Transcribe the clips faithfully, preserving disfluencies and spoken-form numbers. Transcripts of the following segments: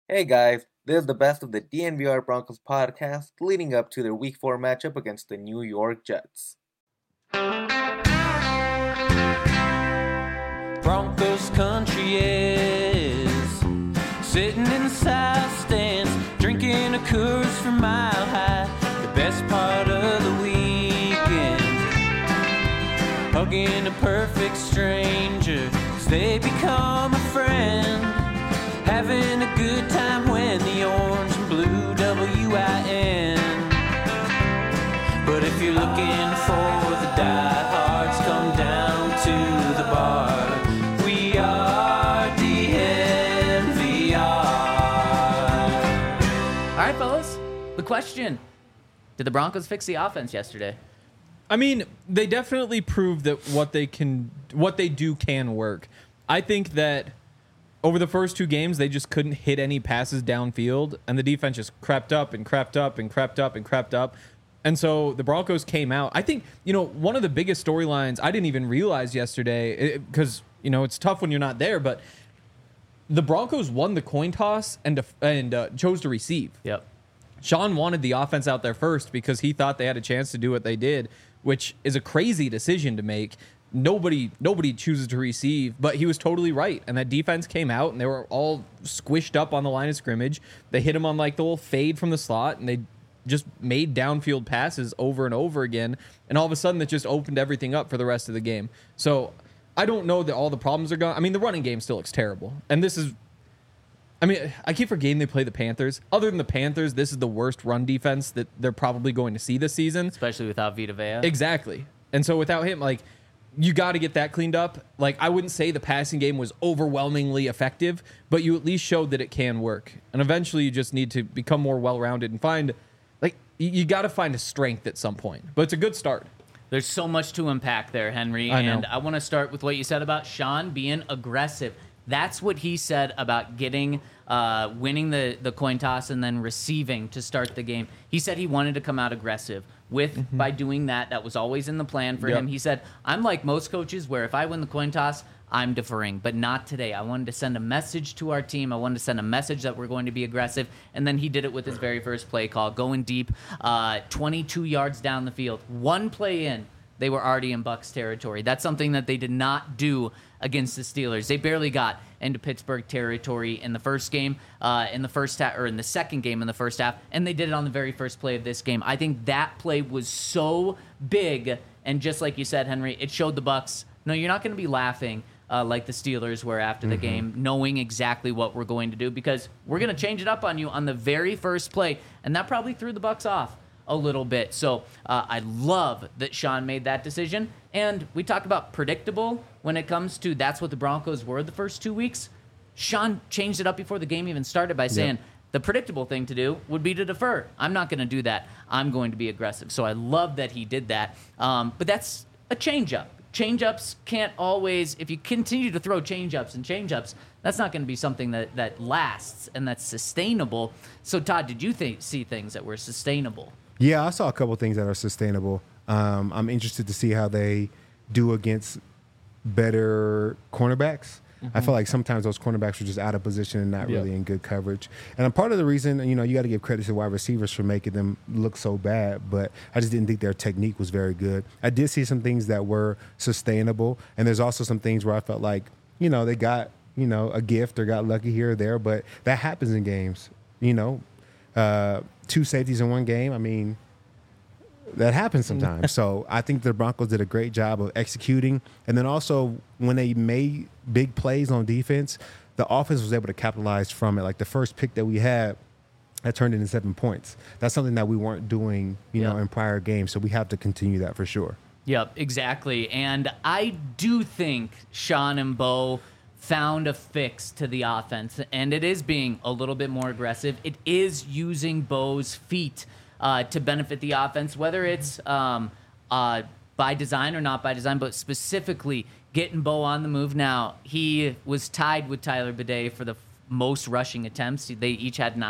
Hey guys, this is the best of the D N V R Broncos podcast leading up to their week four matchup against the New York Jets. Broncos country is sitting in the south stands, drinking a Coors from Mile High, the best part of the weekend. Hugging a perfect stranger, 'cause they become a friend. Having a good time when the orange and blue W I N. But if you're looking for the diehards, come down to the bar. We are D N V R. All right, fellas. The question: did the Broncos fix the offense yesterday? I mean, they definitely proved that what they can, what they do can work. I think that over the first two games, they just couldn't hit any passes downfield, and the defense just crept up and crept up and crept up and crept up. And so the Broncos came out. I think, you know, one of the biggest storylines I didn't even realize yesterday, because, you know, it's tough when you're not there, but the Broncos won the coin toss and and uh, chose to receive. Yep. Sean wanted the offense out there first because he thought they had a chance to do what they did, which is a crazy decision to make. Nobody nobody chooses to receive, but he was totally right. And that defense came out, and they were all squished up on the line of scrimmage. They hit him on like the little fade from the slot, and they just made downfield passes over and over again. And all of a sudden, that just opened everything up for the rest of the game. So I don't know that all the problems are gone. I mean, the running game still looks terrible. And this is, I mean, I keep forgetting they play the Panthers. Other than the Panthers, this is the worst run defense that they're probably going to see this season. Especially without Vita Vea. Exactly. And so without him, like, you got to get that cleaned up. Like, I wouldn't say the passing game was overwhelmingly effective, but you at least showed that it can work. And eventually you just need to become more well-rounded and find, like, you, you got to find a strength at some point. But it's a good start. There's so much to unpack there, Henry. I know. And I want to start with what you said about Sean being aggressive. That's what he said about getting, uh, winning the, the coin toss and then receiving to start the game. He said he wanted to come out aggressive. With mm-hmm. by doing that, that was always in the plan for yep. him. He said, I'm like most coaches where if I win the coin toss, I'm deferring, but not today. I wanted to send a message to our team. I wanted to send a message that we're going to be aggressive, and then he did it with his very first play call, going deep, uh, twenty-two yards down the field. One play in, they were already in Bucs territory. That's something that they did not do against the Steelers. They barely got into Pittsburgh territory in the first game, uh, in the first half, or in the second game in the first half, and they did it on the very first play of this game. I think that play was so big, and just like you said, Henry, it showed the Bucs, no, you're not going to be laughing uh, like the Steelers were after the mm-hmm. game, knowing exactly what we're going to do, because we're going to change it up on you on the very first play, and that probably threw the Bucs off a little bit. So uh, I love that Sean made that decision. And we talk about predictable when it comes to that's what the Broncos were the first two weeks. Sean changed it up before the game even started by saying yep. the predictable thing to do would be to defer. I'm not going to do that. I'm going to be aggressive. So I love that he did that. Um, but that's a change-up. Change-ups can't always, if you continue to throw change-ups and change-ups, that's not going to be something that, that lasts and that's sustainable. So Todd, did you th- see things that were sustainable? Yeah, I saw a couple of things that are sustainable. Um, I'm interested to see how they do against better cornerbacks. Mm-hmm. I feel like sometimes those cornerbacks are just out of position and not yep. really in good coverage. And a part of the reason, you know, you got to give credit to wide receivers for making them look so bad, but I just didn't think their technique was very good. I did see some things that were sustainable, and there's also some things where I felt like, you know, they got, you know, a gift or got lucky here or there, but that happens in games, you know. Uh, two safeties in one game, I mean, that happens sometimes. So I think the Broncos did a great job of executing. And then also when they made big plays on defense, the offense was able to capitalize from it. Like the first pick that we had, that turned into seven points. That's something that we weren't doing, you yep. know, in prior games. So we have to continue that for sure. Yep, exactly. And I do think Sean and Bo found a fix to the offense, and it is being a little bit more aggressive. It is using Bo's feet uh, to benefit the offense, whether it's um, uh, by design or not by design, but specifically getting Bo on the move. Now, he was tied with Tyler Bidet for the f- most rushing attempts. They each had nine.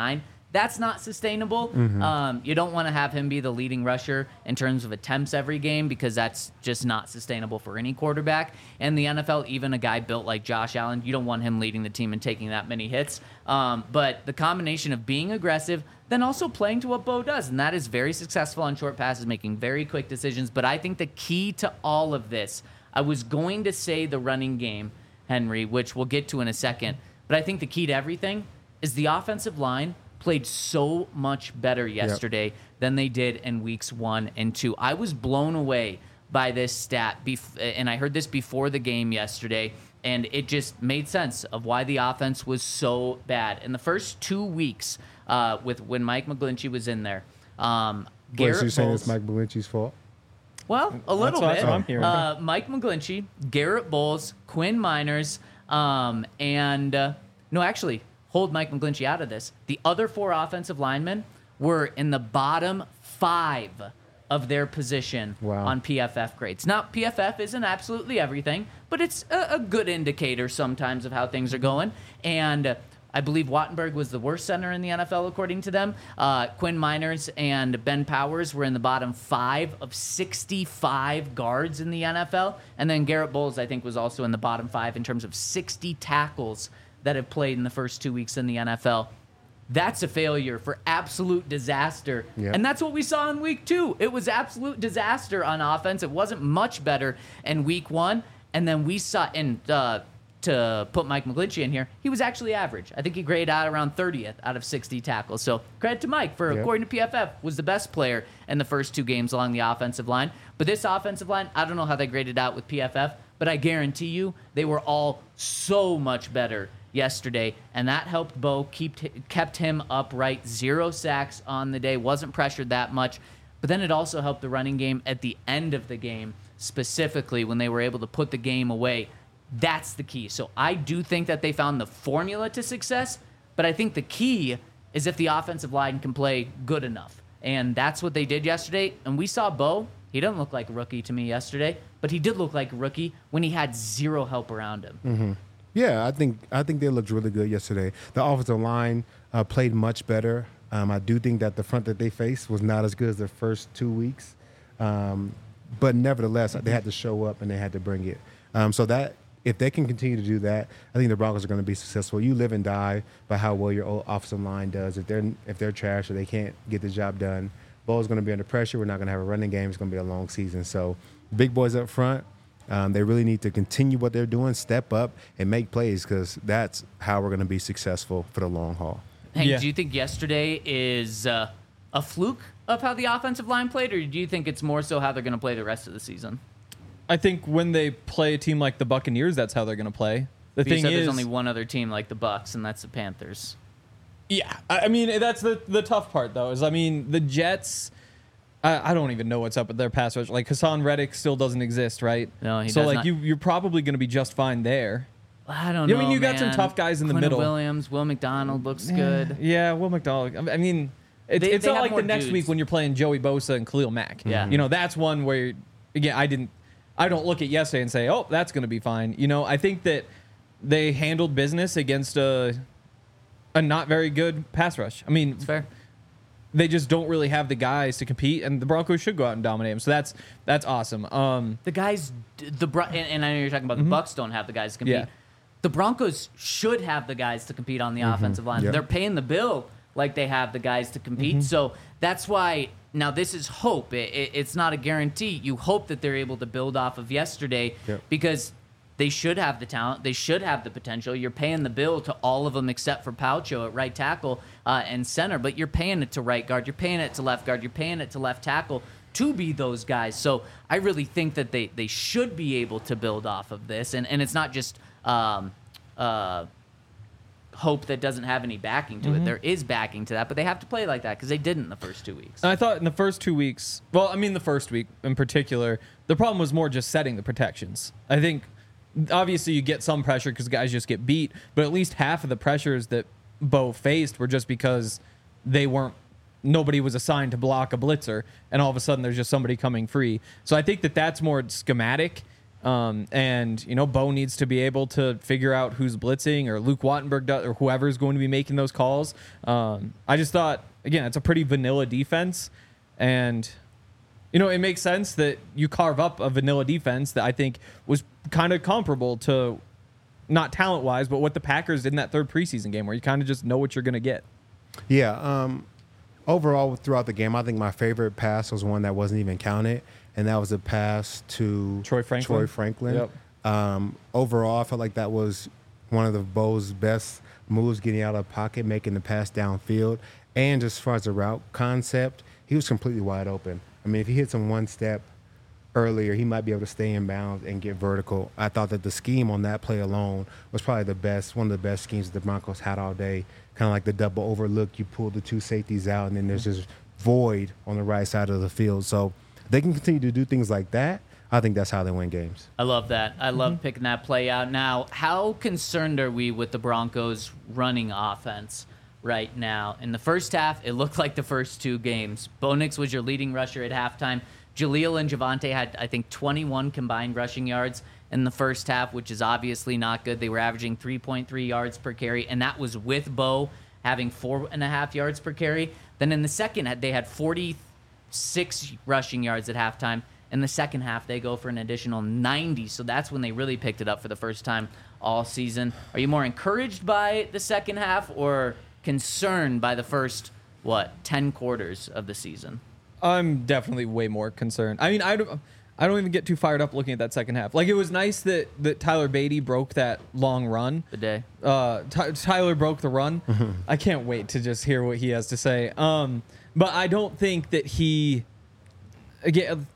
That's not sustainable. Mm-hmm. Um, you don't want to have him be the leading rusher in terms of attempts every game because that's just not sustainable for any quarterback. And the N F L, even a guy built like Josh Allen, you don't want him leading the team and taking that many hits. Um, but the combination of being aggressive, then also playing to what Bo does, and that is very successful on short passes, making very quick decisions. But I think the key to all of this, I was going to say the running game, Henry, which we'll get to in a second, but I think the key to everything is the offensive line played so much better yesterday yep. than they did in weeks one and two. I was blown away by this stat, bef- and I heard this before the game yesterday, and it just made sense of why the offense was so bad. In the first two weeks, uh, with when Mike McGlinchey was in there, um, Wait, Garrett so you're saying Bowles, it's Mike Belinchi's fault? well, a little That's bit. what I'm hearing. Uh, Mike McGlinchey, Garrett Bowles, Quinn Miners, um, and uh, no, actually, hold Mike McGlinchey out of this. The other four offensive linemen were in the bottom five of their position Wow. on P F F grades. Now, P F F isn't absolutely everything, but it's a, a good indicator sometimes of how things are going. And uh, I believe Wattenberg was the worst center in the N F L, according to them. Uh, Quinn Miners and Ben Powers were in the bottom five of sixty-five guards in the N F L. And then Garrett Bowles, I think, was also in the bottom five in terms of sixty tackles that have played in the first two weeks in the N F L. That's a failure for absolute disaster. Yep. And that's what we saw in week two. It was absolute disaster on offense. It wasn't much better in week one. And then we saw, and uh, to put Mike McGlinchey in here, he was actually average. I think he graded out around thirtieth out of sixty tackles. So credit to Mike for, Yep. according to P F F, was the best player in the first two games along the offensive line. But this offensive line, I don't know how they graded out with P F F, but I guarantee you they were all so much better yesterday, and that helped Bo keep kept him upright. Zero sacks on the day, wasn't pressured that much. But then it also helped the running game at the end of the game, specifically when they were able to put the game away. That's the key. So I do think that they found the formula to success, but I think the key is if the offensive line can play good enough. And that's what they did yesterday. And we saw Bo. He didn't look like a rookie to me yesterday, but he did look like a rookie when he had zero help around him. Mm-hmm. Yeah, I think I think they looked really good yesterday. The offensive line uh, played much better. Um, I do think that the front that they faced was not as good as the first two weeks, um, but nevertheless, they had to show up and they had to bring it. Um, so that if they can continue to do that, I think the Broncos are going to be successful. You live and die by how well your old offensive line does. If they're if they're trash or they can't get the job done, Bo's going to be under pressure. We're not going to have a running game. It's going to be a long season. So big boys up front. Um, they really need to continue what they're doing, step up, and make plays because that's how we're going to be successful for the long haul. Hank, Yeah. do you think yesterday is uh, a fluke of how the offensive line played, or do you think it's more so how they're going to play the rest of the season? I think when they play a team like the Buccaneers, that's how they're going to play. The You thing said is, there's only one other team like the Bucks, and that's the Panthers. yeah, I I mean that's the the tough part though. Is I mean the Jets. I, I don't even know what's up with their pass rush. Like Hassan Reddick still doesn't exist, right? No, he so does like not. you you're probably going to be just fine there. I don't Yeah, know. I mean, you got some man. tough guys in the Quentin middle. Williams, Will McDonald looks good. Yeah, Will McDonald. I mean, it's, They- it's they not have like more the next dudes. week when you're playing Joey Bosa and Khalil Mack. Yeah. You know, that's one where, again, I didn't, I don't look at yesterday and say, oh, that's going to be fine. You know, I think that they handled business against a, a not very good pass rush. I mean, It's fair. they just don't really have the guys to compete, and the Broncos should go out and dominate them. So that's that's awesome. Um, The guys, the Bro- and, and I know you're talking about the Bucks don't have the guys to compete. Yeah. The Broncos should have the guys to compete on the offensive line. Yep. They're paying the bill like they have the guys to compete. So that's why now this is hope. It, it, it's not a guarantee. You hope that they're able to build off of yesterday Yep. because they should have the talent. They should have the potential. You're paying the bill to all of them except for Paucho at right tackle uh, and center, but you're paying it to right guard. You're paying it to left guard. You're paying it to left tackle to be those guys. So I really think that they, they should be able to build off of this. And, and it's not just um, uh, hope that doesn't have any backing to it. There is backing to that, but they have to play like that because they didn't in the first two weeks. And I thought in the first two weeks, well, I mean, the first week in particular, the problem was more just setting the protections. I think obviously you get some pressure because guys just get beat, but at least half of the pressures that Bo faced were just because they weren't, nobody was assigned to block a blitzer, and all of a sudden there's just somebody coming free. So I think that that's more schematic Um, and, you know, Bo needs to be able to figure out who's blitzing, or Luke Wattenberg does, or whoever's going to be making those calls. Um, I just thought, again, it's a pretty vanilla defense. And, you know, it makes sense that you carve up a vanilla defense that I think was kind of comparable to, not talent-wise, but what the Packers did in that third preseason game, where you kind of just know what you're going to get. Yeah. Um, overall, throughout the game, I think my favorite pass was one that wasn't even counted, and that was a pass to Troy Franklin. Troy Franklin. Yep. Um, overall, I felt like that was one of the Bo's best moves, getting out of the pocket, making the pass downfield. And just as far as the route concept, he was completely wide open. I mean, if he hits him one step earlier, he might be able to stay in bounds and get vertical. I thought that the scheme on that play alone was probably the best, one of the best schemes the Broncos had all day. Kind of like the double overlook. You pull the two safeties out, and then there's this void on the right side of the field. So they can continue to do things like that. I think that's how they win games. I love that. I love mm-hmm. picking that play out. Now, how concerned are we with the Broncos' running offense right now? In the first half, it looked like the first two games. Bo Nix was your leading rusher at halftime. Jaleel and Javonte had, I think, twenty-one combined rushing yards in the first half, which is obviously not good. They were averaging three point three yards per carry, and that was with Bo having four and a half yards per carry. Then in the second, they had forty-six rushing yards at halftime. In the second half, they go for an additional ninety, so that's when they really picked it up for the first time all season. Are you more encouraged by the second half or concerned by the first, what, ten quarters of the season? I'm definitely way more concerned. I mean, I don't, I don't even get too fired up looking at that second half. Like, it was nice that, that Tyler Beatty broke that long run. The day. Uh, Ty- Tyler broke the run. I can't wait to just hear what he has to say. Um, but I don't think that he, again,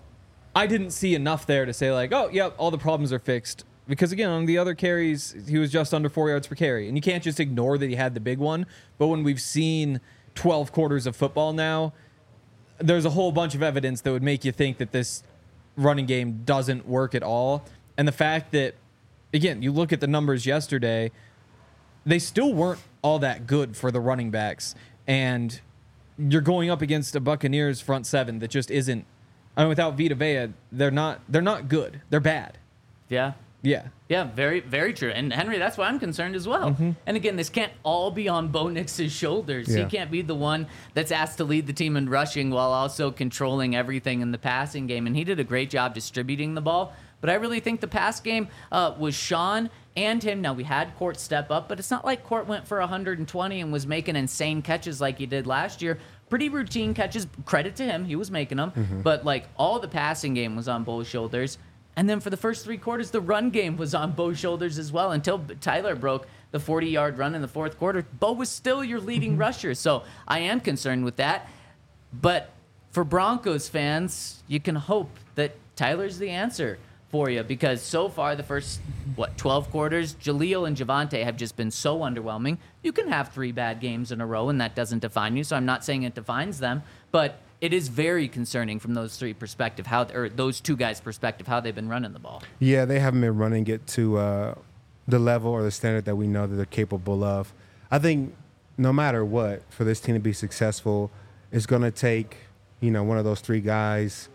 I didn't see enough there to say, like, oh, yep, all the problems are fixed. Because, again, on the other carries, he was just under four yards per carry. And you can't just ignore that he had the big one. But when we've seen twelve quarters of football now, there's a whole bunch of evidence that would make you think that this running game doesn't work at all. And the fact that, again, you look at the numbers yesterday, they still weren't all that good for the running backs. And you're going up against a Buccaneers front seven that just isn't, I mean, without Vita Vea, they're not, they're not good. They're bad. Yeah. Yeah. Yeah, very, very true. And Henry, that's why I'm concerned as well. Mm-hmm. And again, this can't all be on Bo Nix's shoulders. Yeah. He can't be the one that's asked to lead the team in rushing while also controlling everything in the passing game. And he did a great job distributing the ball. But I really think the pass game uh, was Sean and him. Now, we had Court step up, but it's not like Court went for one hundred twenty and was making insane catches like he did last year. Pretty routine catches. Credit to him. He was making them. Mm-hmm. But, like, all the passing game was on Bo's shoulders. And then for the first three quarters, the run game was on Bo's shoulders as well until Tyler broke the forty-yard run in the fourth quarter. Bo was still your leading rusher, so I am concerned with that. But for Broncos fans, you can hope that Tyler's the answer for you because so far the first, what, twelve quarters, Jaleel and Javonte have just been so underwhelming. You can have three bad games in a row, and that doesn't define you, so I'm not saying it defines them, but it is very concerning from those three perspective, how or those two guys' perspective, how they've been running the ball. Yeah, they haven't been running it to uh, the level or the standard that we know that they're capable of. I think no matter what, for this team to be successful, it's going to take, you know, one of those three guys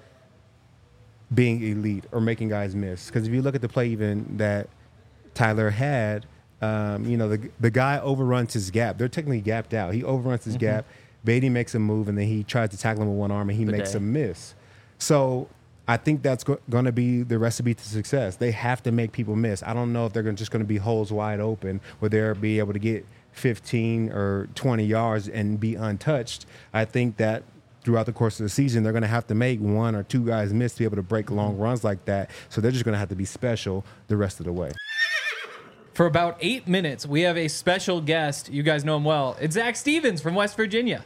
being elite or making guys miss. Because if you look at the play even that Tyler had, um, you know, the the guy overruns his gap. They're technically gapped out. He overruns his mm-hmm. gap. Beatty makes a move, and then he tries to tackle him with one arm, and he Good makes day. a miss. So I think that's go- going to be the recipe to success. They have to make people miss. I don't know if they're gonna, just going to be holes wide open where they'll be able to get fifteen or twenty yards and be untouched. I think that throughout the course of the season, they're going to have to make one or two guys miss to be able to break long runs like that. So they're just going to have to be special the rest of the way. For about eight minutes, we have a special guest. You guys know him well. It's Zach Stevens from West Virginia.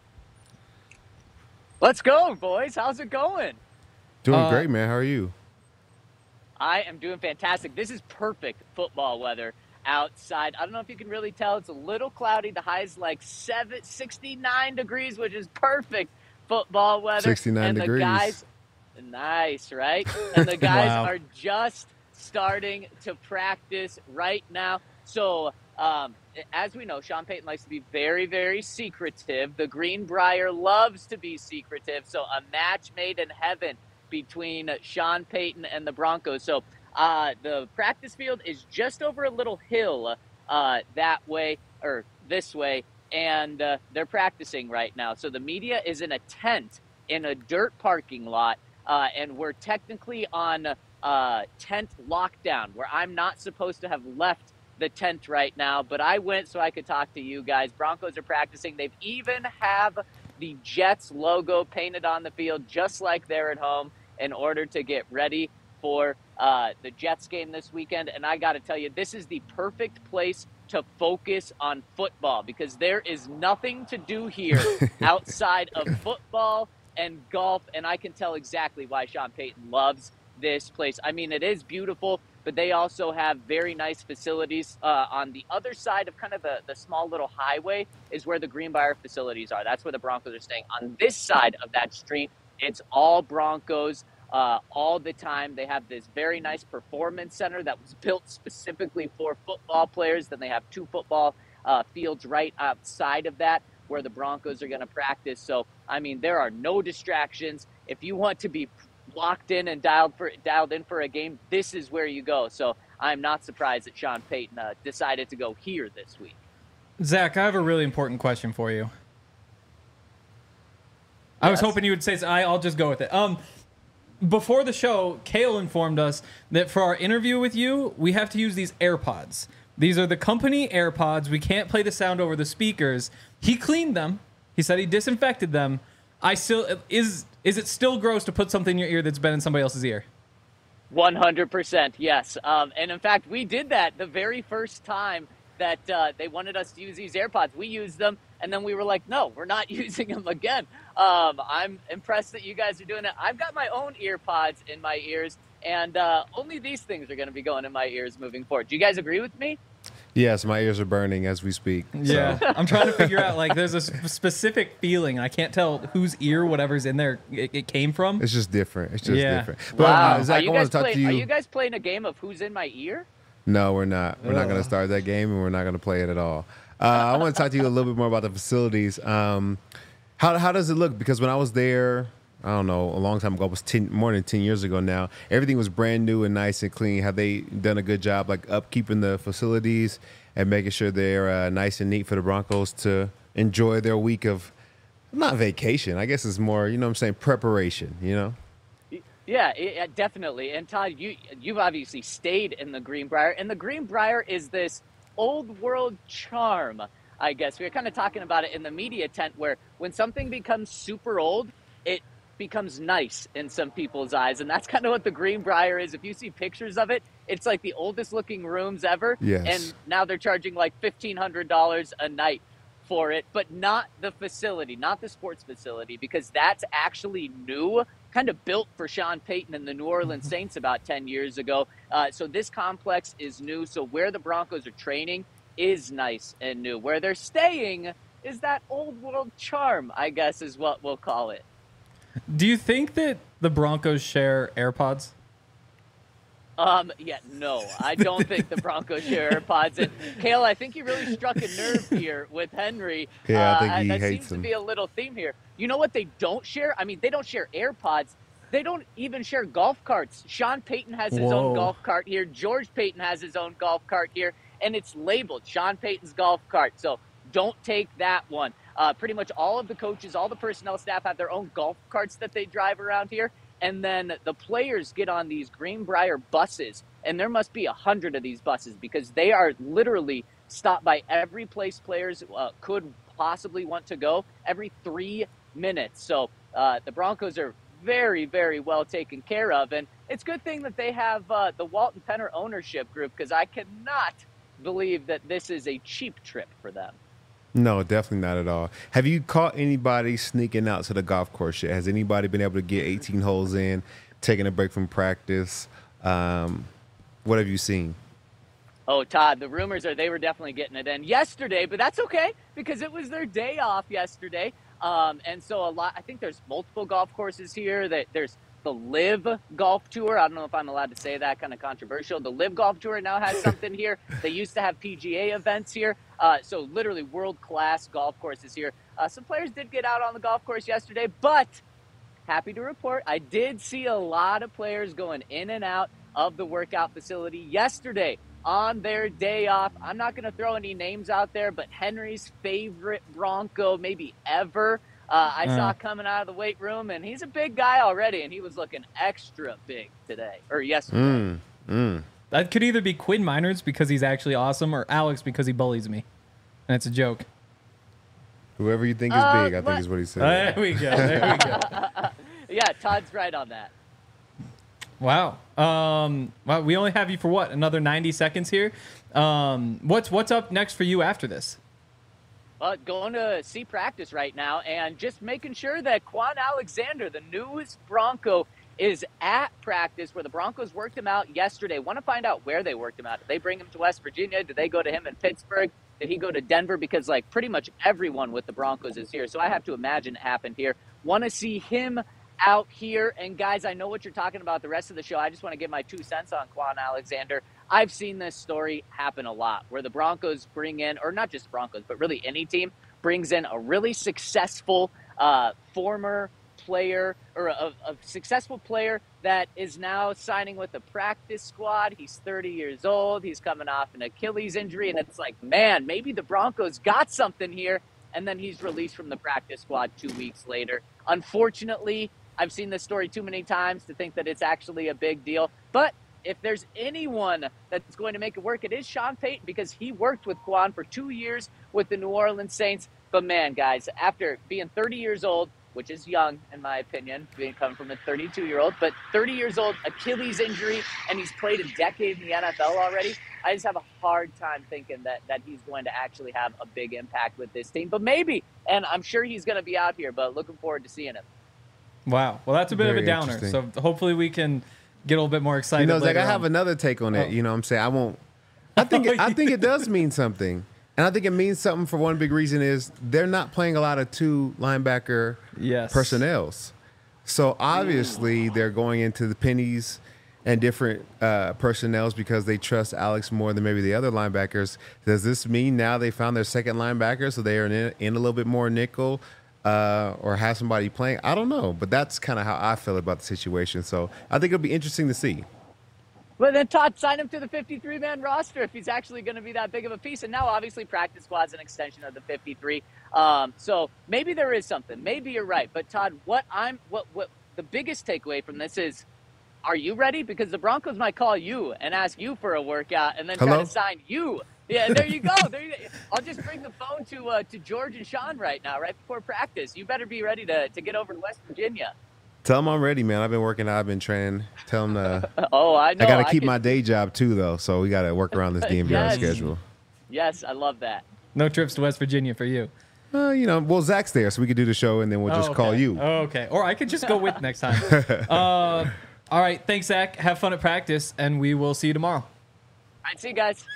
Let's go, boys. How's it going? Doing Uh, great, man. How are you? I am doing fantastic. This is perfect football weather outside. I don't know if you can really tell. It's a little cloudy. The high is like seven, sixty-nine degrees, which is perfect football weather. sixty-nine and degrees. The guys, nice, right? And the guys Wow. are just starting to practice right now. So, um, as we know, Sean Payton likes to be very, very secretive. The Greenbrier loves to be secretive. So a match made in heaven between Sean Payton and the Broncos. So uh, the practice field is just over a little hill uh, that way or this way, and uh, they're practicing right now. So the media is in a tent in a dirt parking lot, uh, and we're technically on uh, tent lockdown, where I'm not supposed to have left the tent right now, but I went so I could talk to you guys. Broncos are practicing. They've even have the Jets logo painted on the field, just like they're at home, in order to get ready for uh, the Jets game this weekend. And I got to tell you, this is the perfect place to focus on football, because there is nothing to do here outside of football and golf. And I can tell exactly why Sean Payton loves this place. I mean, it is beautiful, but they also have very nice facilities. Uh, on the other side of kind of the, the small little highway is where the Greenbrier facilities are. That's where the Broncos are staying. On this side of that street, it's all Broncos uh, all the time. They have this very nice performance center that was built specifically for football players. Then they have two football uh, fields right outside of that where the Broncos are going to practice. So, I mean, there are no distractions. If you want to be locked in and dialed for dialed in for a game, this is where you go. So I'm not surprised that Sean Payton uh, decided to go here this week. Zach, I have a really important question for you. I was Yes. hoping you would say, I, I'll just go with it. Um, before the show, Kale informed us that for our interview with you, we have to use these AirPods. These are the company AirPods. We can't play the sound over the speakers. He cleaned them. He said he disinfected them. I still is is it still gross to put something in your ear that's been in somebody else's ear? one hundred percent, yes. Um, and in fact, we did that the very first time that uh, they wanted us to use these AirPods. We used them, and then we were like, no, we're not using them again. Um, I'm impressed that you guys are doing it. I've got my own AirPods in my ears, and uh, only these things are going to be going in my ears moving forward. Do you guys agree with me? Yes, my ears are burning as we speak. Yeah, So. I'm trying to figure out, like, there's a sp- specific feeling. I can't tell whose ear whatever's in there it, it came from. It's just different. It's just Yeah. different. But Wow. uh, Zach, are, I you want guys to talk play, to you. are you guys playing a game of who's in my ear? No, we're not. We're not going to start that game, and we're not going to play it at all. Uh, I want to talk to you a little bit more about the facilities. Um, how how does it look? Because when I was there, I don't know, a long time ago, it was ten, more than ten years ago now. Everything was brand new and nice and clean. Have they done a good job, like upkeeping the facilities and making sure they're uh, nice and neat for the Broncos to enjoy their week of not vacation? I guess it's more, you know what I'm saying, preparation. You know. Yeah, it, it- definitely. And Todd, you you've obviously stayed in the Greenbrier, and the Greenbrier is this old world charm, I guess. We were kind of talking about it in the media tent, where when something becomes super old, it becomes nice in some people's eyes, and that's kind of what the Greenbrier is. If you see pictures of it, it's like the oldest looking rooms ever, Yes. and now they're charging like fifteen hundred dollars a night for it, but not the facility, not the sports facility, because that's actually new, kind of built for Sean Payton and the New Orleans Saints about ten years ago. Uh, so this complex is new. So where the Broncos are training is nice and new. Where they're staying is that old world charm, I guess is what we'll call it. Do you think that the Broncos share AirPods? Um, yeah, no, I don't think the Broncos share AirPods. And Kale, I think you really struck a nerve here with Henry. Yeah, I think Uh, he that hates seems them. to be a little theme here. You know what they don't share? I mean, they don't share AirPods. They don't even share golf carts. Sean Payton has his Whoa. own golf cart here. George Payton has his own golf cart here, and it's labeled Sean Payton's golf cart. So don't take that one. Uh, pretty much all of the coaches, all the personnel staff have their own golf carts that they drive around here. And then the players get on these Greenbrier buses, and there must be a hundred of these buses because they are literally stopped by every place players uh, could possibly want to go every three minutes. So uh, the Broncos are very, very well taken care of. And it's a good thing that they have uh, the Walton Penner ownership group, because I cannot believe that this is a cheap trip for them. No, definitely not at all. Have you caught anybody sneaking out to the golf course yet? Has anybody been able to get eighteen holes in, taking a break from practice? Um, what have you seen? Oh, Todd, the rumors are they were definitely getting it in yesterday, but that's okay because it was their day off yesterday. Um, and so a lot, I think there's multiple golf courses here. That there's the Live Golf Tour. I don't know if I'm allowed to say that, kind of controversial. The Live Golf Tour now has something here. They used to have P G A events here. Uh, so literally world-class golf courses here. Uh, some players did get out on the golf course yesterday, but happy to report I did see a lot of players going in and out of the workout facility yesterday on their day off. I'm not going to throw any names out there, but Henry's favorite Bronco maybe ever, uh, I Uh. saw coming out of the weight room, and he's a big guy already, and he was looking extra big today, or yesterday. Mm, mm. That could either be Quinn Miners because he's actually awesome, or Alex because he bullies me, and it's a joke. Whoever you think is Uh, big, I think let- is what he said. There we go. There we go. Yeah, Todd's right on that. Wow. Um, well, we only have you for what? Another ninety seconds here. Um, what's what's up next for you after this? Uh, going to see practice right now and just making sure that Quan Alexander, the newest Bronco, is at practice where the Broncos worked him out yesterday. Want to find out where they worked him out. Did they bring him to West Virginia? Did they go to him in Pittsburgh? Did he go to Denver? Because, like, pretty much everyone with the Broncos is here. So I have to imagine it happened here. Want to see him out here. And, guys, I know what you're talking about the rest of the show. I just want to give my two cents on Quan Alexander. I've seen this story happen a lot where the Broncos bring in, or not just Broncos, but really any team, brings in a really successful uh, former player or a, a successful player that is now signing with the practice squad. He's thirty years old. He's coming off an Achilles injury. And it's like, man, maybe the Broncos got something here. And then he's released from the practice squad two weeks later. Unfortunately, I've seen this story too many times to think that it's actually a big deal. But if there's anyone that's going to make it work, it is Sean Payton, because he worked with Quan for two years with the New Orleans Saints. But man, guys, after being thirty years old, which is young in my opinion, being coming from a thirty-two-year-old, but thirty years old, Achilles injury, and he's played a decade in the N F L already. I just have a hard time thinking that that he's going to actually have a big impact with this team. But maybe, and I'm sure he's going to be out here, but looking forward to seeing him. Wow. Well, that's a bit Very of a downer. So interesting. hopefully we can get a little bit more excited. You know, Zach, later I have on. another take on it. Oh. You know what I'm saying? I won't. I think it, I think it does mean something. And I think it means something for one big reason is they're not playing a lot of two linebacker Yes. personnels. So obviously they're going into the pennies and different uh, personnels because they trust Alex more than maybe the other linebackers. Does this mean now they found their second linebacker, so they are in, in a little bit more nickel uh, or have somebody playing? I don't know, but that's kind of how I feel about the situation. So I think it'll be interesting to see. Well, then Todd, sign him to the fifty-three man roster if he's actually going to be that big of a piece. And now, obviously, practice squad's an extension of the fifty-three. Um, so maybe there is something. Maybe you're right. But Todd, what I'm what what the biggest takeaway from this is, are you ready? Because the Broncos might call you and ask you for a workout, and then Hello? try to sign you. Yeah, there you go. There you go. I'll just bring the phone to uh, to George and Sean right now, right before practice. You better be ready to to get over to West Virginia. Tell them I'm ready, man. I've been working out. I've been training. Tell them uh, Oh, I know. I got to keep could- my day job too, though. So we got to work around this D N V R Yes. schedule. Yes, I love that. No trips to West Virginia for you. Uh, you know, well, Zach's there, so we could do the show and then we'll just Oh, okay. call you. Oh, okay. Or I could just go with next time. uh, all right. Thanks, Zach. Have fun at practice, and we will see you tomorrow. All right, see you guys.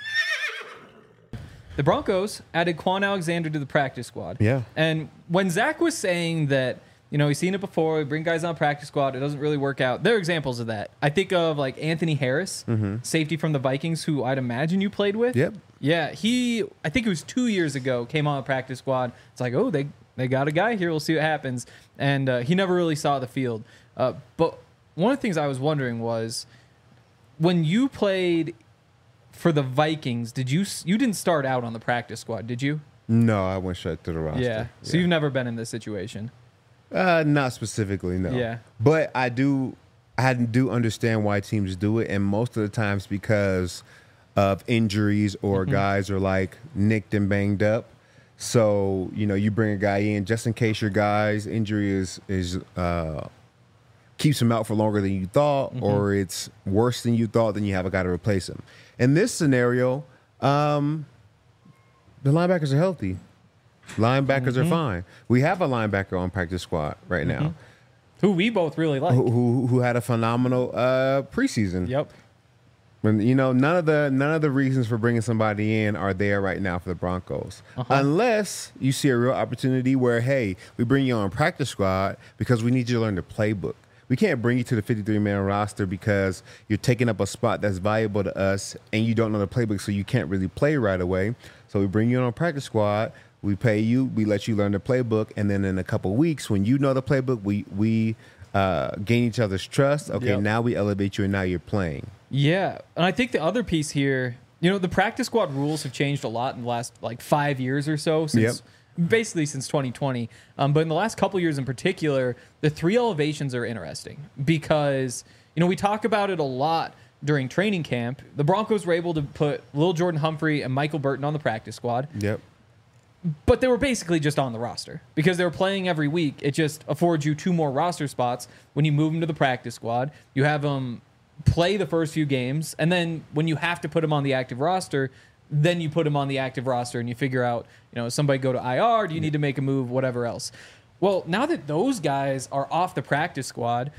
The Broncos added Quan Alexander to the practice squad. Yeah. And when Zach was saying that, you know, he's seen it before, we bring guys on practice squad, it doesn't really work out. There are examples of that. I think of like Anthony Harris, safety from the Vikings, who I'd imagine you played with. Yep. Yeah, he, I think it was two years ago, came on the practice squad. It's like, oh, they, they got a guy here. We'll see what happens. And uh, he never really saw the field. Uh, but one of the things I was wondering was, when you played for the Vikings, did you you didn't start out on the practice squad, did you? No, I went straight to the roster. Yeah. So you've never been in this situation. Uh, not specifically, no. Yeah. But I do, I do understand why teams do it, and most of the times because of injuries or Mm-hmm. guys are like nicked and banged up. So you know, you bring a guy in just in case your guy's injury is is uh, keeps him out for longer than you thought, Mm-hmm. or it's worse than you thought. Then you have a guy to replace him. In this scenario, um, the linebackers are healthy. Linebackers Mm-hmm. are fine. We have a linebacker on practice squad right now Who we both really like. who, who who had a phenomenal uh, preseason. Yep. And, you know, none of the none of the reasons for bringing somebody in are there right now for the Broncos, Uh-huh. unless you see a real opportunity where, hey, we bring you on practice squad because we need you to learn the playbook. We can't bring you to the fifty-three man roster because you're taking up a spot that's valuable to us and you don't know the playbook, so you can't really play right away. So we bring you on practice squad. We pay you. We let you learn the playbook, and then in a couple weeks, when you know the playbook, we we uh, gain each other's trust. Okay, Yep. now we elevate you, and now you're playing. Yeah, and I think the other piece here, you know, the practice squad rules have changed a lot in the last like five years or so since basically since twenty twenty. Um, but in the last couple years in particular, the three elevations are interesting because, you know, we talk about it a lot during training camp. The Broncos were able to put Lil Jordan Humphrey and Michael Burton on the practice squad. Yep. But they were basically just on the roster because they were playing every week. It just affords you two more roster spots when you move them to the practice squad. You have them play the first few games, and then when you have to put them on the active roster, then you put them on the active roster and you figure out, you know, does somebody go to I R? Do you need to make a move? Whatever else. Well, now that those guys are off the practice squad,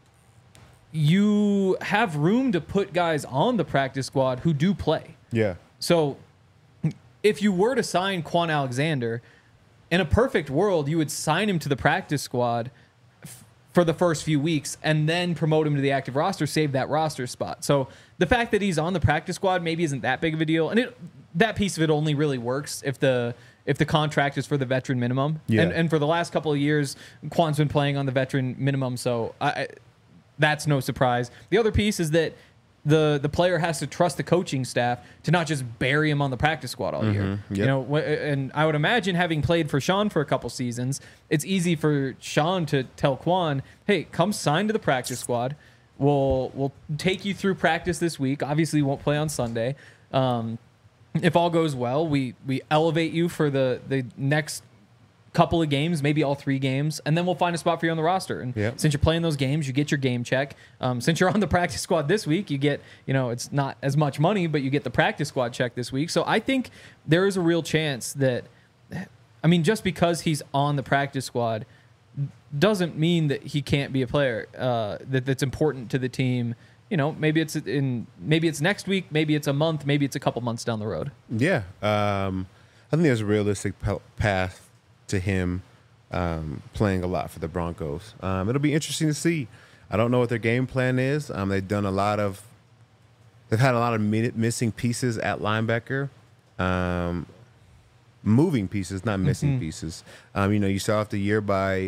you have room to put guys on the practice squad who do play. Yeah. So if you were to sign Quan Alexander, in a perfect world, you would sign him to the practice squad f- for the first few weeks and then promote him to the active roster, save that roster spot. So the fact that he's on the practice squad maybe isn't that big of a deal. And it, that piece of it only really works if the if the contract is for the veteran minimum. Yeah. And, and for the last couple of years, Quan's been playing on the veteran minimum, so I, I, that's no surprise. The other piece is that the the player has to trust the coaching staff to not just bury him on the practice squad all year. Yep. You know, wh- and I would imagine, having played for Sean for a couple seasons, it's easy for Sean to tell Quan, "Hey, come sign to the practice squad. We'll we'll take you through practice this week. Obviously, you won't play on Sunday. Um, if all goes well, we we elevate you for the the next couple of games, maybe all three games, and then we'll find a spot for you on the roster. And Yep. since you're playing those games, you get your game check. Um, since you're on the practice squad this week, you get, you know, it's not as much money, but you get the practice squad check this week. So I think there is a real chance that, I mean, just because he's on the practice squad doesn't mean that he can't be a player uh, that that's important to the team. You know, maybe it's in, maybe it's next week, maybe it's a month, maybe it's a couple months down the road. Yeah. Um, I think there's a realistic p- path to him um, playing a lot for the Broncos. Um, it'll be interesting to see. I don't know what their game plan is. Um, they've done a lot of, they've had a lot of mi- missing pieces at linebacker, um, moving pieces, not missing Mm-hmm. pieces. Um, you know, you start off the year by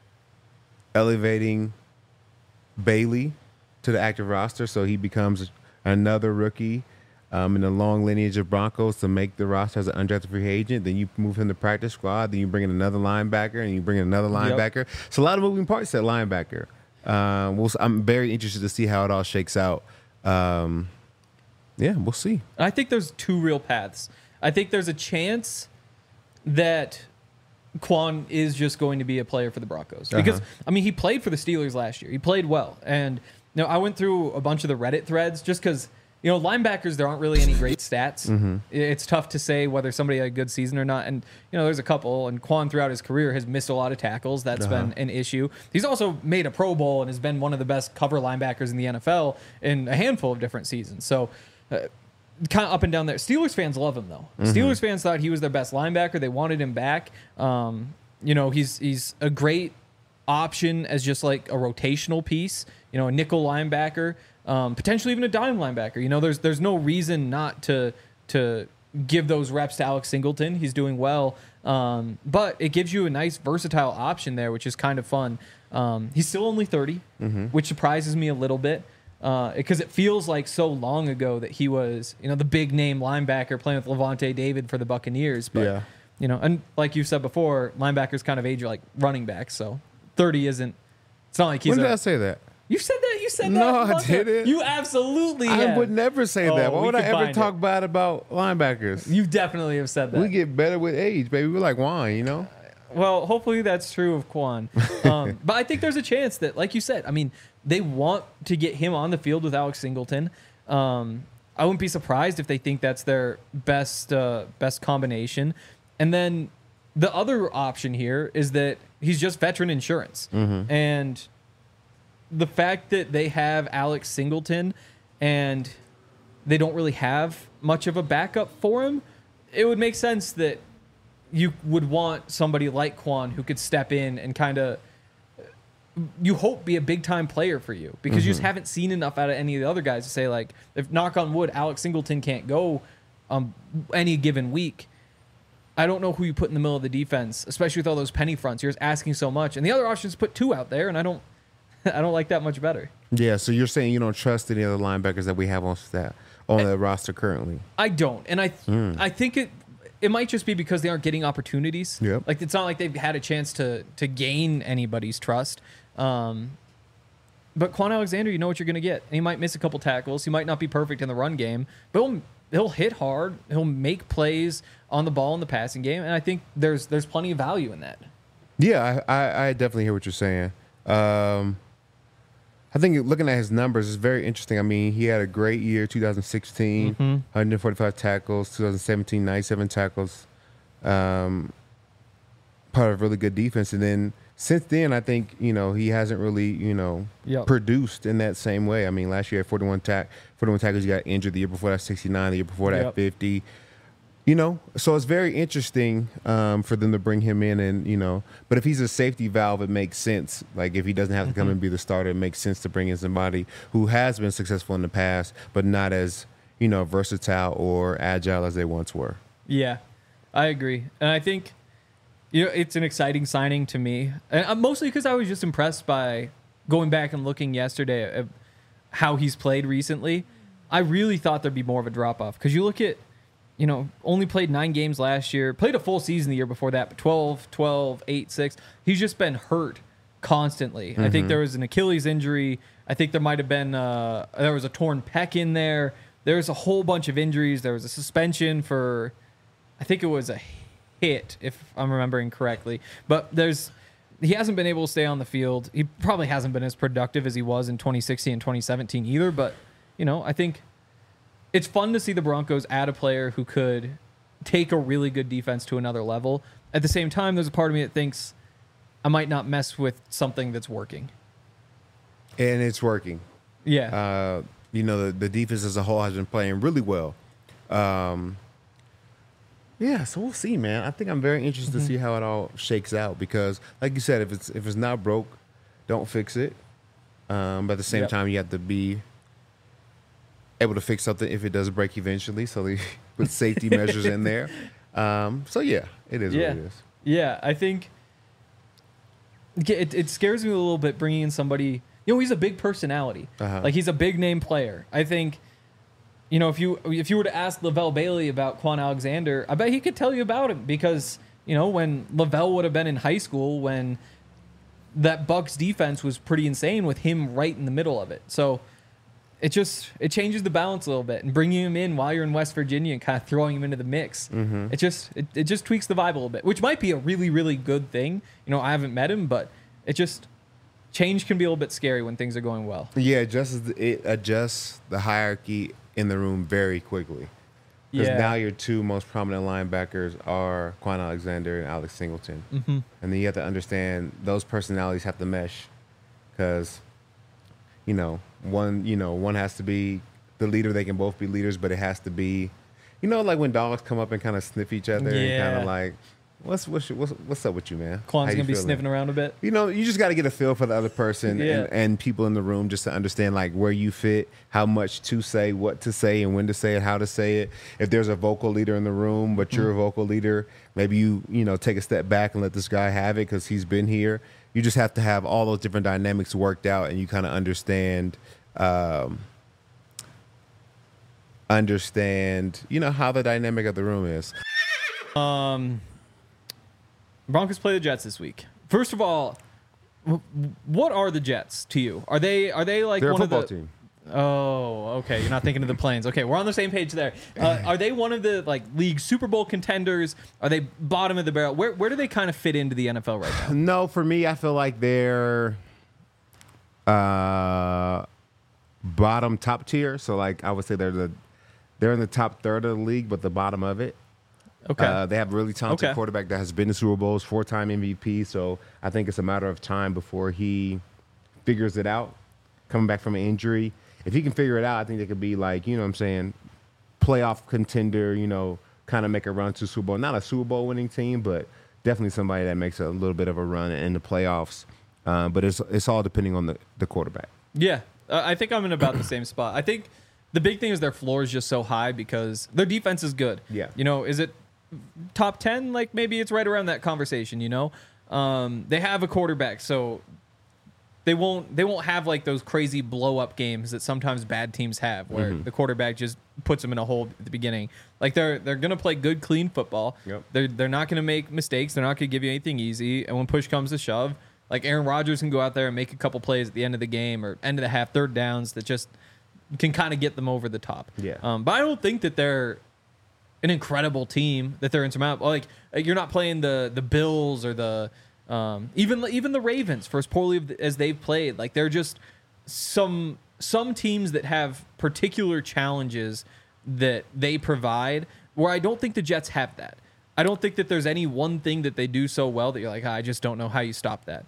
elevating Bailey to the active roster, so he becomes another rookie um, in a long lineage of Broncos to make the roster as an undrafted free agent. Then you move him to practice squad. Then you bring in another linebacker, and you bring in another linebacker. So a lot of moving parts at linebacker. Um, we'll, I'm very interested to see how it all shakes out. Um, yeah, we'll see. I think there's two real paths. I think there's a chance that Quan is just going to be a player for the Broncos. Because, Uh-huh. I mean, he played for the Steelers last year. He played well. And, you know, I went through a bunch of the Reddit threads just because, you know, linebackers, there aren't really any great stats. Mm-hmm. It's tough to say whether somebody had a good season or not. And, you know, there's a couple. And Quan, throughout his career, has missed a lot of tackles. That's Uh-huh. been an issue. He's also made a Pro Bowl and has been one of the best cover linebackers in the N F L in a handful of different seasons. So, uh, kind of up and down there. Steelers fans love him, though. Mm-hmm. Steelers fans thought he was their best linebacker. They wanted him back. Um, you know, he's he's a great option as just like a rotational piece, you know, a nickel linebacker, um, potentially even a dime linebacker. You know, there's there's no reason not to to give those reps to Alex Singleton. He's doing well. Um, but it gives you a nice versatile option there, which is kind of fun. Um, he's still only thirty, Mm-hmm. which surprises me a little bit. Because uh, it feels like so long ago that he was, you know, the big name linebacker playing with Levante David for the Buccaneers. But, Yeah. you know, and like you've said before, linebackers kind of age like running backs. So thirty isn't, it's not like he's When did a, I say that? You said that. You said that. No, a I month ago. didn't. You absolutely I have. would never say Oh, that. Why we would I could ever find talk it. bad about linebackers? You definitely have said that. We get better with age, baby. We're like wine, you know? Well, hopefully that's true of Quan. Um, but I think there's a chance that, like you said, I mean, they want to get him on the field with Alex Singleton. Um, I wouldn't be surprised if they think that's their best uh, best combination. And then the other option here is that he's just veteran insurance. Mm-hmm. And the fact that they have Alex Singleton and they don't really have much of a backup for him, it would make sense that you would want somebody like Quan who could step in and kind of, you hope, be a big time player for you, because you just haven't seen enough out of any of the other guys to say, like, if knock on wood, Alex Singleton can't go um, any given week. I don't know who you put in the middle of the defense, especially with all those penny fronts. You're just asking so much. And the other option is put two out there, and I don't I don't like that much better. Yeah, so you're saying you don't trust any other linebackers that we have on staff on the roster currently? I don't, and I th- I think it it might just be because they aren't getting opportunities. Yep. Like it's not like they've had a chance to to gain anybody's trust. Um, but Quan Alexander, you know what you're going to get. He might miss a couple tackles. He might not be perfect in the run game, but he'll he'll hit hard. He'll make plays on the ball in the passing game, and I think there's there's plenty of value in that. Yeah, I, I, I definitely hear what you're saying. Um, I think looking at his numbers is very interesting. I mean, he had a great year, two thousand sixteen, Mm-hmm. one hundred forty-five tackles, two thousand seventeen, ninety-seven tackles, um, part of a really good defense. And then since then, I think, you know, he hasn't really, you know, Yep. produced in that same way. I mean, last year, forty-one, tack, forty-one tackles, he got injured. The year before that, sixty-nine. The year before that, Yep. fifty. You know, so it's very interesting um, for them to bring him in, and you know, but if he's a safety valve, it makes sense. Like if he doesn't have to come and be the starter, it makes sense to bring in somebody who has been successful in the past, but not as, you know, versatile or agile as they once were. Yeah, I agree, and I think you know it's an exciting signing to me, and uh, mostly because I was just impressed by going back and looking yesterday at how he's played recently. I really thought there'd be more of a drop off because you look at. You know, only played nine games last year, played a full season the year before that, but twelve, twelve, eight, six. He's just been hurt constantly. Mm-hmm. I think there was an Achilles injury. I think there might have been, uh, there was a torn pec in there. There was a whole bunch of injuries. There was a suspension for, I think it was a hit, if I'm remembering correctly. But there's, he hasn't been able to stay on the field. He probably hasn't been as productive as he was in twenty sixteen and twenty seventeen either. But, you know, I think it's fun to see the Broncos add a player who could take a really good defense to another level. At the same time, there's a part of me that thinks I might not mess with something that's working. And it's working. Yeah. Uh, you know, the, the defense as a whole has been playing really well. Um, yeah, so we'll see, man. I think I'm very interested Mm-hmm. to see how it all shakes out because, like you said, if it's if it's not broke, don't fix it. Um, but at the same Yep. time, you have to be able to fix something if it does break eventually. So they put safety measures in there. Um, so yeah, it is yeah. what it is. Yeah, I think it, it scares me a little bit bringing in somebody. You know, he's a big personality. Uh-huh. Like he's a big name player. I think, you know, if you if you were to ask Lavelle Bailey about Quan Alexander, I bet he could tell you about him because you know when Lavelle would have been in high school when that Bucs defense was pretty insane with him right in the middle of it. So it just it changes the balance a little bit, and bringing him in while you're in West Virginia and kind of throwing him into the mix, Mm-hmm. it just it, it just tweaks the vibe a little bit, which might be a really really good thing. You know, I haven't met him, but it just change can be a little bit scary when things are going well. Yeah, it adjusts, it adjusts the hierarchy in the room very quickly. Because Yeah. now your two most prominent linebackers are Quan Alexander and Alex Singleton. Mm-hmm. And then you have to understand those personalities have to mesh. Because, you know, one, you know, one has to be the leader. They can both be leaders, but it has to be, you know, like when dogs come up and kind of sniff each other and kind Yeah. of like, what's what's what's what's up with you, man? Quan's How you gonna be feeling? sniffing around a bit. You know, you just got to get a feel for the other person Yeah. and, and people in the room just to understand like where you fit, how much to say, what to say, and when to say it, how to say it. If there's a vocal leader in the room, but you're a vocal leader, maybe you you know take a step back and let this guy have it because he's been here. You just have to have all those different dynamics worked out, and you kind of understand. Um, understand you know how the dynamic of the room is. Um, Broncos play the Jets this week. First of all, w- what are the Jets to you? Are they are they like They're a one football of the? team. Oh, okay. You're not thinking of the Plains. Okay, we're on the same page there. Uh, are they one of the like league Super Bowl contenders? Are they bottom of the barrel? Where where do they kind of fit into the N F L right now? No, for me, I feel like they're uh, bottom top tier. So, like, I would say they're the they're in the top third of the league, but the bottom of it. Okay. Uh, they have a really talented Okay. quarterback that has been to Super Bowls, four-time M V P. So I think it's a matter of time before he figures it out, coming back from an injury. If he can figure it out, I think they could be like, you know what I'm saying, playoff contender, you know, kind of make a run to Super Bowl. Not a Super Bowl winning team, but definitely somebody that makes a little bit of a run in the playoffs. Uh, but it's it's all depending on the, the quarterback. Yeah, uh, I think I'm in about the same spot. I think the big thing is their floor is just so high because their defense is good. Yeah. You know, is it top ten? Like maybe it's right around that conversation, you know? Um, they have a quarterback, so they won't they won't have like those crazy blow up games that sometimes bad teams have, where Mm-hmm. the quarterback just puts them in a hole at the beginning. Like they're they're gonna play good, clean football. Yep. They're they're not gonna make mistakes. They're not gonna give you anything easy. And when push comes to shove, like Aaron Rodgers can go out there and make a couple plays at the end of the game or end of the half, third downs that just can kind of get them over the top. Yeah. Um, but I don't think that they're an incredible team, that they're insurmountable. Like you're not playing the the Bills or the um, even even the Ravens for as poorly as they've played. Like they're just some some teams that have particular challenges that they provide, where I don't think the Jets have that. I don't think that there's any one thing that they do so well that you're like, "Ah, I just don't know how you stop that."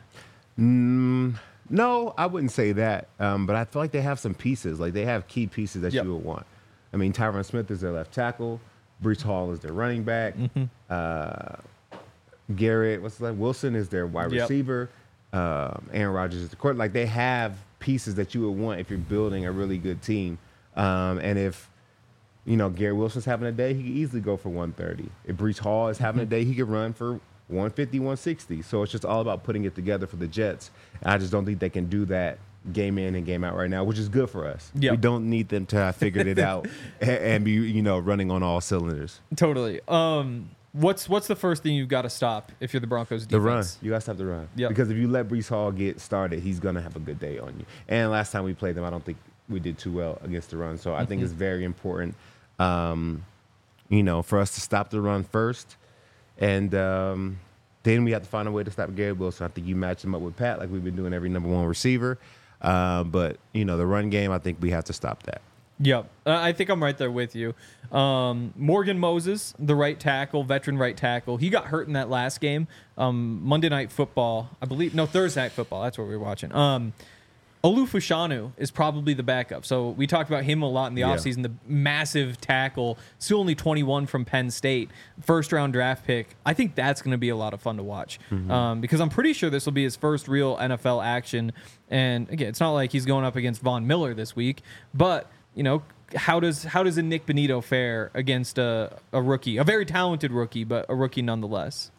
No, I wouldn't say that. Um, but I feel like they have some pieces. Like they have key pieces that Yep. you would want. I mean, Tyron Smith is their left tackle. Brees Hall is their running back. Mm-hmm. Uh, Garrett, what's that? Wilson is their wide Yep. receiver. Um, Aaron Rodgers is the quarterback. Like they have pieces that you would want if you're building a really good team. Um, and if you know Garrett Wilson's having a day, he could easily go for one thirty. If Brees Hall is having a day, he could run for one fifty, one sixty. So it's just all about putting it together for the Jets. And I just don't think they can do that game in and game out right now, which is good for us. Yep. We don't need them to have figured it out and, and be, you know, running on all cylinders. Totally. Um, what's what's the first thing you've got to stop if you're the Broncos defense? The run. You got to stop the run. Yep. Because if you let Brees Hall get started, he's going to have a good day on you. And last time we played them, I don't think we did too well against the run. So I think it's very important, um, you know, for us to stop the run first. And um, then we have to find a way to stop Garrett Wilson. I think you match him up with Pat like we've been doing every number one receiver. Uh, but, you know, the run game, I think we have to stop that. Yep. Uh, I think I'm right there with you. Um, Morgan Moses, the right tackle, veteran right tackle. He got hurt in that last game. Um, Monday Night Football, I believe. No, Thursday Night Football. That's what we were watching. Um, Olufushanu is probably the backup. So we talked about him a lot in the Yeah. offseason, the massive tackle, still only twenty-one from Penn State, first round draft pick. I think that's going to be a lot of fun to watch um, because I'm pretty sure this will be his first real N F L action. And again, it's not like he's going up against Von Miller this week, but, you know, how does how does a Nick Benito fare against a, a rookie, a very talented rookie, but a rookie nonetheless?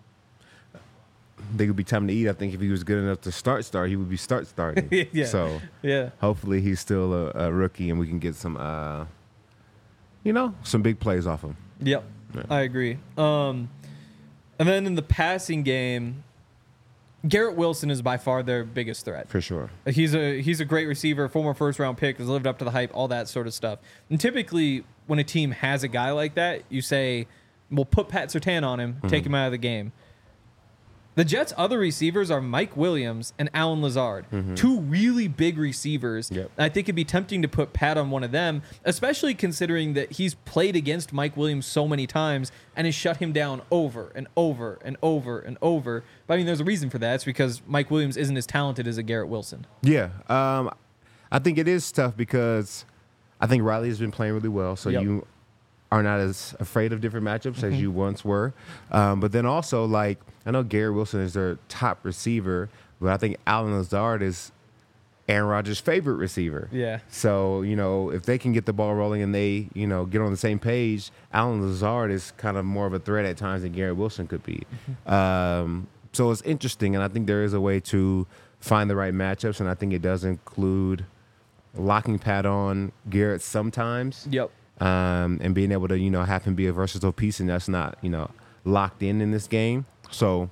I think it would be time to eat. I think if he was good enough to start start, he would be start starting. Yeah. So Yeah. hopefully he's still a, a rookie and we can get some, uh, you know, some big plays off him. Yep, I agree. Um, and then in the passing game, Garrett Wilson is by far their biggest threat. For sure. He's a he's a great receiver, former first round pick, has lived up to the hype, all that sort of stuff. And typically, when a team has a guy like that, you say, "We'll put Pat Surtain on him, take him out of the game." The Jets' other receivers are Mike Williams and Alan Lazard, two really big receivers. Yep. I think it'd be tempting to put Pat on one of them, especially considering that he's played against Mike Williams so many times and has shut him down over and over and over and over. But I mean, there's a reason for that. It's because Mike Williams isn't as talented as a Garrett Wilson. Yeah. Um, I think it is tough because I think Riley has been playing really well. So Yep. you are not as afraid of different matchups as you once were. Um, but then also, like, I know Garrett Wilson is their top receiver, but I think Alan Lazard is Aaron Rodgers' favorite receiver. Yeah. So, you know, if they can get the ball rolling and they, you know, get on the same page, Alan Lazard is kind of more of a threat at times than Garrett Wilson could be. Um, so it's interesting, and I think there is a way to find the right matchups, and I think it does include locking Pat on Garrett sometimes. Yep. Um, and being able to, you know, have him be a versatile piece, and that's not, you know, locked in in this game. So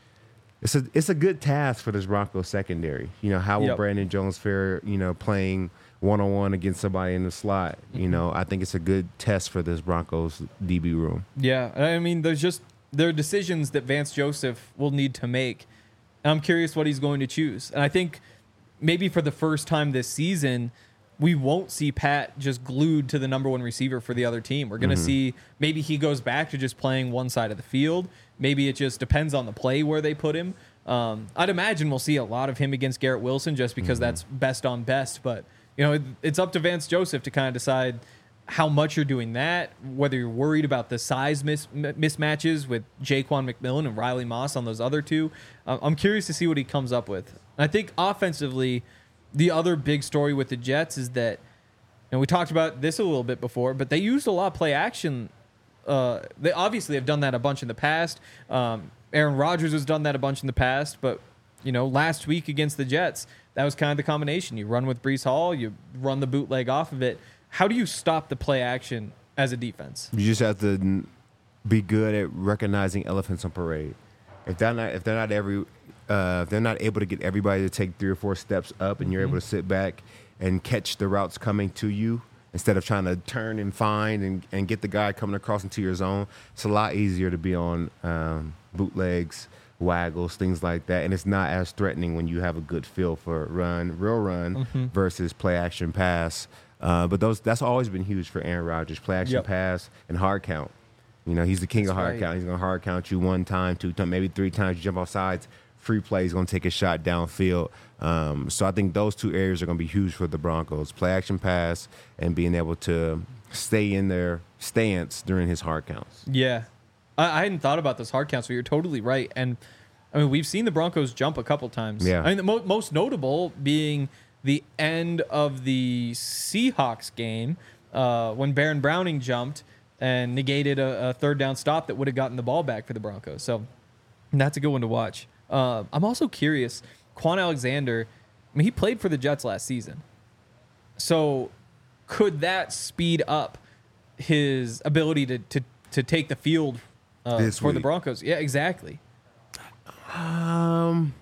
it's a it's a good task for this Broncos secondary. You know, how will Yep. Brandon Jones fare, you know, playing one-on-one against somebody in the slot? You know, I think it's a good test for this Broncos D B room. Yeah, I mean, there's just there are decisions that Vance Joseph will need to make, and I'm curious what he's going to choose. And I think maybe for the first time this season, we won't see Pat just glued to the number one receiver for the other team. We're going to see maybe he goes back to just playing one side of the field. Maybe it just depends on the play where they put him. Um, I'd imagine we'll see a lot of him against Garrett Wilson just because that's best on best. But, you know, it, it's up to Vance Joseph to kind of decide how much you're doing that, whether you're worried about the size mis- mismatches with Jaquan McMillan and Riley Moss on those other two. Uh, I'm curious to see what he comes up with. I think offensively, the other big story with the Jets is that, and we talked about this a little bit before, but they used a lot of play action. Uh, they obviously have done that a bunch in the past. Um, Aaron Rodgers has done that a bunch in the past, but you know, last week against the Jets, that was kind of the combination. You run with Breece Hall, you run the bootleg off of it. How do you stop the play action as a defense? You just have to n- be good at recognizing elephants on parade. If they're not, if they're not every, uh, if they're not able to get everybody to take three or four steps up, and you're able to sit back and catch the routes coming to you instead of trying to turn and find and, and get the guy coming across into your zone, it's a lot easier to be on um, bootlegs, waggles, things like that, and it's not as threatening when you have a good feel for run, real run Mm-hmm. versus play action pass. Uh, but those that's always been huge for Aaron Rodgers: play action Yep. pass and hard count. You know, he's the king That's of hard right. count. He's gonna hard count you one time, two times, maybe three times. You jump off sides, free play. He's gonna take a shot downfield. Um, so I think those two areas are gonna be huge for the Broncos: play action pass and being able to stay in their stance during his hard counts. Yeah. I, I hadn't thought about those hard counts, but you're totally right. And I mean, we've seen the Broncos jump a couple times. Yeah. I mean, the mo- most notable being the end of the Seahawks game uh, when Baron Browning jumped and negated a, a third down stop that would have gotten the ball back for the Broncos. So that's a good one to watch. Uh, I'm also curious, Quan Alexander, I mean, he played for the Jets last season. So could that speed up his ability to to, to take the field uh, This for the week. Broncos? Yeah, exactly. Um,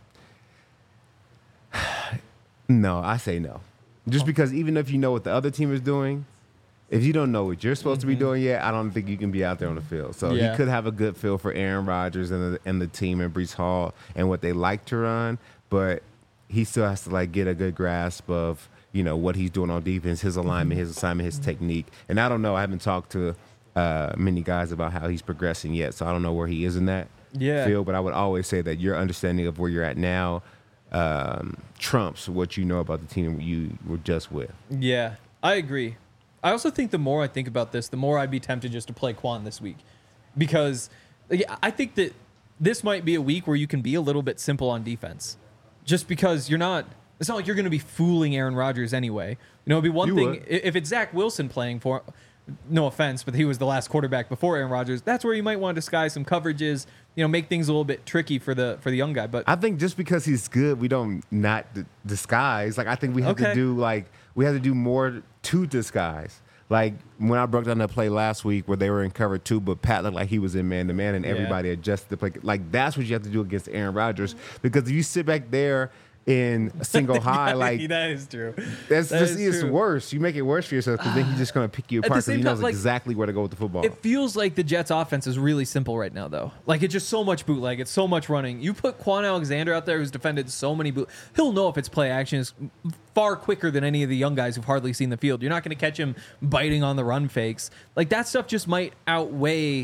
no, I say no. Just because even if you know what the other team is doing, if you don't know what you're supposed to be doing yet, I don't think you can be out there on the field. So Yeah. he could have a good feel for Aaron Rodgers and the, and the team and Breece Hall and what they like to run, but he still has to like get a good grasp of, you know, what he's doing on defense, his alignment, his assignment, his technique. And I don't know. I haven't talked to uh, many guys about how he's progressing yet, so I don't know where he is in that Yeah. field. But I would always say that your understanding of where you're at now um, trumps what you know about the team you were just with. Yeah, I agree. I also think the more I think about this, the more I'd be tempted just to play Quan this week. Because like, I think that this might be a week where you can be a little bit simple on defense. Just because you're not, it's not like you're going to be fooling Aaron Rodgers anyway. You know, it'd be one You thing, would. i- if it's Zach Wilson playing for, no offense, but he was the last quarterback before Aaron Rodgers, that's where you might want to disguise some coverages, you know, make things a little bit tricky for the for the young guy. But I think just because he's good, we don't not d- disguise. Like I think we have Okay. to do like we have to do more to disguise. Like when I broke down that play last week where they were in cover two, but Pat looked like he was in man to man, and Yeah. everybody adjusted the play. Like that's what you have to do against Aaron Rodgers, because if you sit back there in a single high, like that is true. that's That just is it's true. worse. You make it worse for yourself because then he's just gonna pick you At the apart because same he time, knows like, exactly where to go with the football. It feels like the Jets' offense is really simple right now, though. Like, it's just so much bootleg. It's so much running. You put Quan Alexander out there, who's defended so many boot. He'll know if it's play action is far quicker than any of the young guys who've hardly seen the field. You're not going to catch him biting on the run fakes. Like, that stuff just might outweigh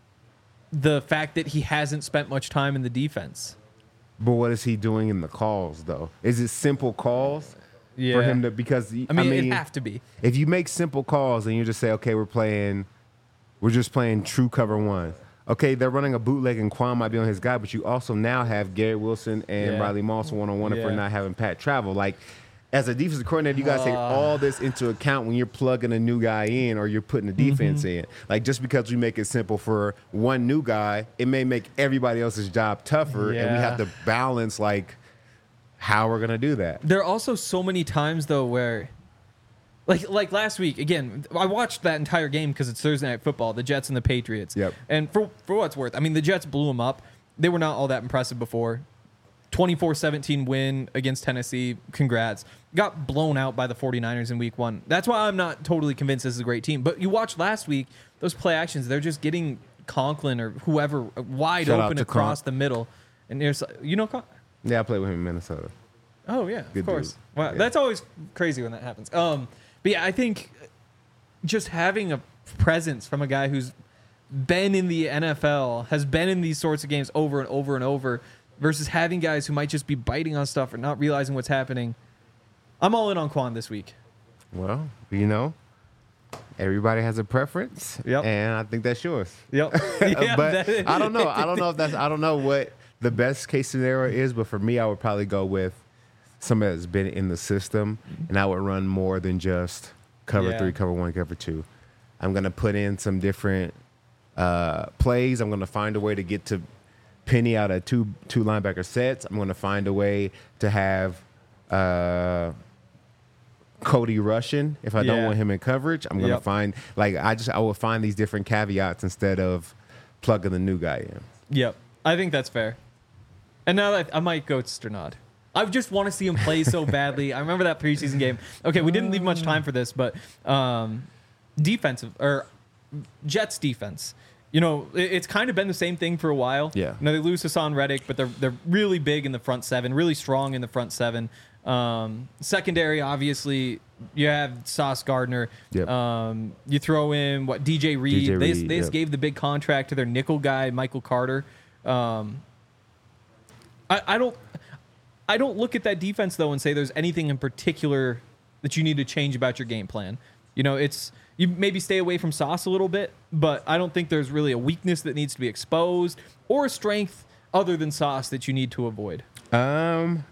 the fact that he hasn't spent much time in the defense. But what is he doing in the calls though? Is it simple calls Yeah. for him to because I mean, it'd have to be. if you make simple calls and you just say, okay, we're playing, we're just playing true cover one. Okay, they're running a bootleg and Quan might be on his guy, but you also now have Garrett Wilson and Yeah. Riley Moss one on one if we're Yeah. not having Pat travel. Like, as a defensive coordinator, you guys take all this into account when you're plugging a new guy in or you're putting a defense in. Like, just because we make it simple for one new guy, it may make everybody else's job tougher, and we Yeah. have to balance like how we're gonna do that. There are also so many times though where, like like last week again, I watched that entire game because it's Thursday Night Football, the Jets and the Patriots. Yep. And for for what it's worth, I mean the Jets blew them up. They were not all that impressive before. twenty-four seventeen win against Tennessee. Congrats. Got blown out by the 49ers in week one. That's why I'm not totally convinced this is a great team. But you watched last week, those play actions, they're just getting Conklin or whoever wide Shout out open to across Conk. the middle. And there's, you know, Con- Yeah, I played with him in Minnesota. Oh yeah, Good of course. dude. Wow, Yeah. that's always crazy when that happens. Um, but yeah, I think just having a presence from a guy who's been in the N F L, has been in these sorts of games over and over and over, versus having guys who might just be biting on stuff or not realizing what's happening. I'm all in on Quan this week. Well, you know, everybody has a preference, Yep. and I think that's yours. Yep. but I don't know. I don't know if that's. I don't know what the best case scenario is. But for me, I would probably go with somebody that's been in the system, and I would run more than just cover Yeah. three, cover one, cover two. I'm gonna put in some different uh, plays. I'm gonna find a way to get to Penny out of two two linebacker sets. I'm gonna find a way to have uh, Cody Russian. If I don't Yeah. want him in coverage, I'm gonna Yep. find like I just I will find these different caveats instead of plugging the new guy in. Yep. I think that's fair. And now that I might go Sternad. I just want to see him play so badly. I remember that preseason game. Okay, we didn't leave much time for this, but um, defensive or Jets defense. You know, it, it's kind of been the same thing for a while. Yeah. You know, they lose Hassan Reddick, but they're they're really big in the front seven, really strong in the front seven. Um, secondary, obviously, you have Sauce Gardner. Yep. Um, you throw in what D J Reed. D J they Reed, they just yep. gave the big contract to their nickel guy, Michael Carter. Um, I, I don't I don't look at that defense though and say there's anything in particular that you need to change about your game plan. You know, it's you maybe stay away from Sauce a little bit, but I don't think there's really a weakness that needs to be exposed or a strength other than Sauce that you need to avoid. Um.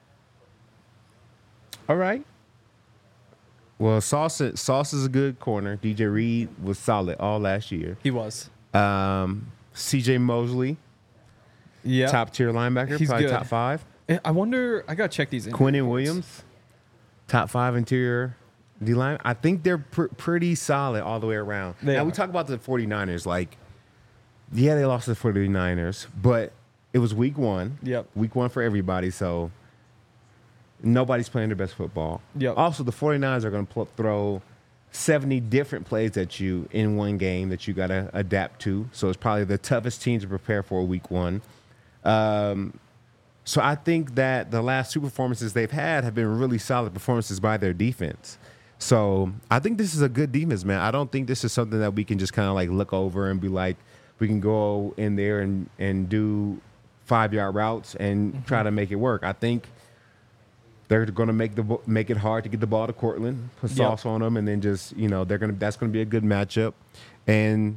All right. Well, Sauce Sauce is a good corner. D J Reed was solid all last year. He was. Um, C J Mosley, Yeah. top tier linebacker, He's probably good. top five. I wonder. I gotta check these. injury Quinnen reports. Williams, top five interior D line. I think they're pr- pretty solid all the way around. They now, we are. talk about the 49ers. Like, yeah, they lost to the 49ers, but it was week one. Yep. Week one for everybody, so nobody's playing their best football. Yep. Also, the 49ers are going to pl- throw seventy different plays at you in one game that you got to adapt to. So it's probably the toughest team to prepare for week one. Um, so I think that the last two performances they've had have been really solid performances by their defense. So I think this is a good defense, man. I don't think this is something that we can just kind of like look over and be like, we can go in there and, and do five-yard routes and Mm-hmm. try to make it work. I think they're going to make the bo- make it hard to get the ball to Cortland, put Yep. sauce on them, and then just you know they're gonna that's going to be a good matchup, and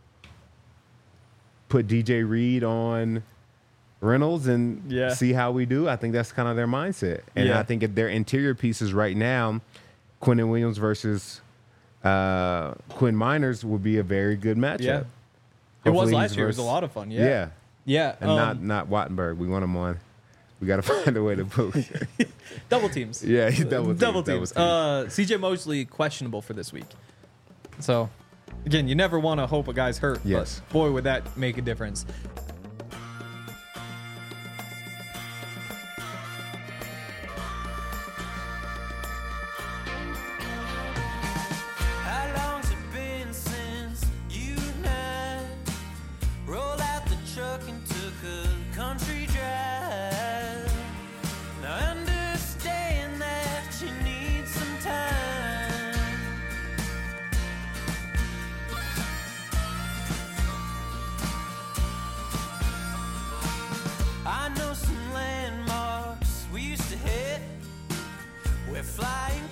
put D J Reed on Reynolds and Yeah. see how we do. I think that's kind of their mindset, and Yeah. I think if their interior pieces right now, Quinnen Williams versus uh, Quinn Miners would be a very good matchup. Yeah. It was Hopefully last he's year. It was a vers- lot of fun. Yeah. yeah, Yeah. and um, not not Wattenberg. We want him on. We got to find a way to book. double teams. Yeah, he's double teams, double double teams. teams. Uh, C J Mosley questionable for this week. So, again, you never want to hope a guy's hurt. Yes. But boy, would that make a difference. How long's it been since you and I rolled out the truck and took a country drive? Now I understand that you need some time. I know some landmarks we used to hit. We're flying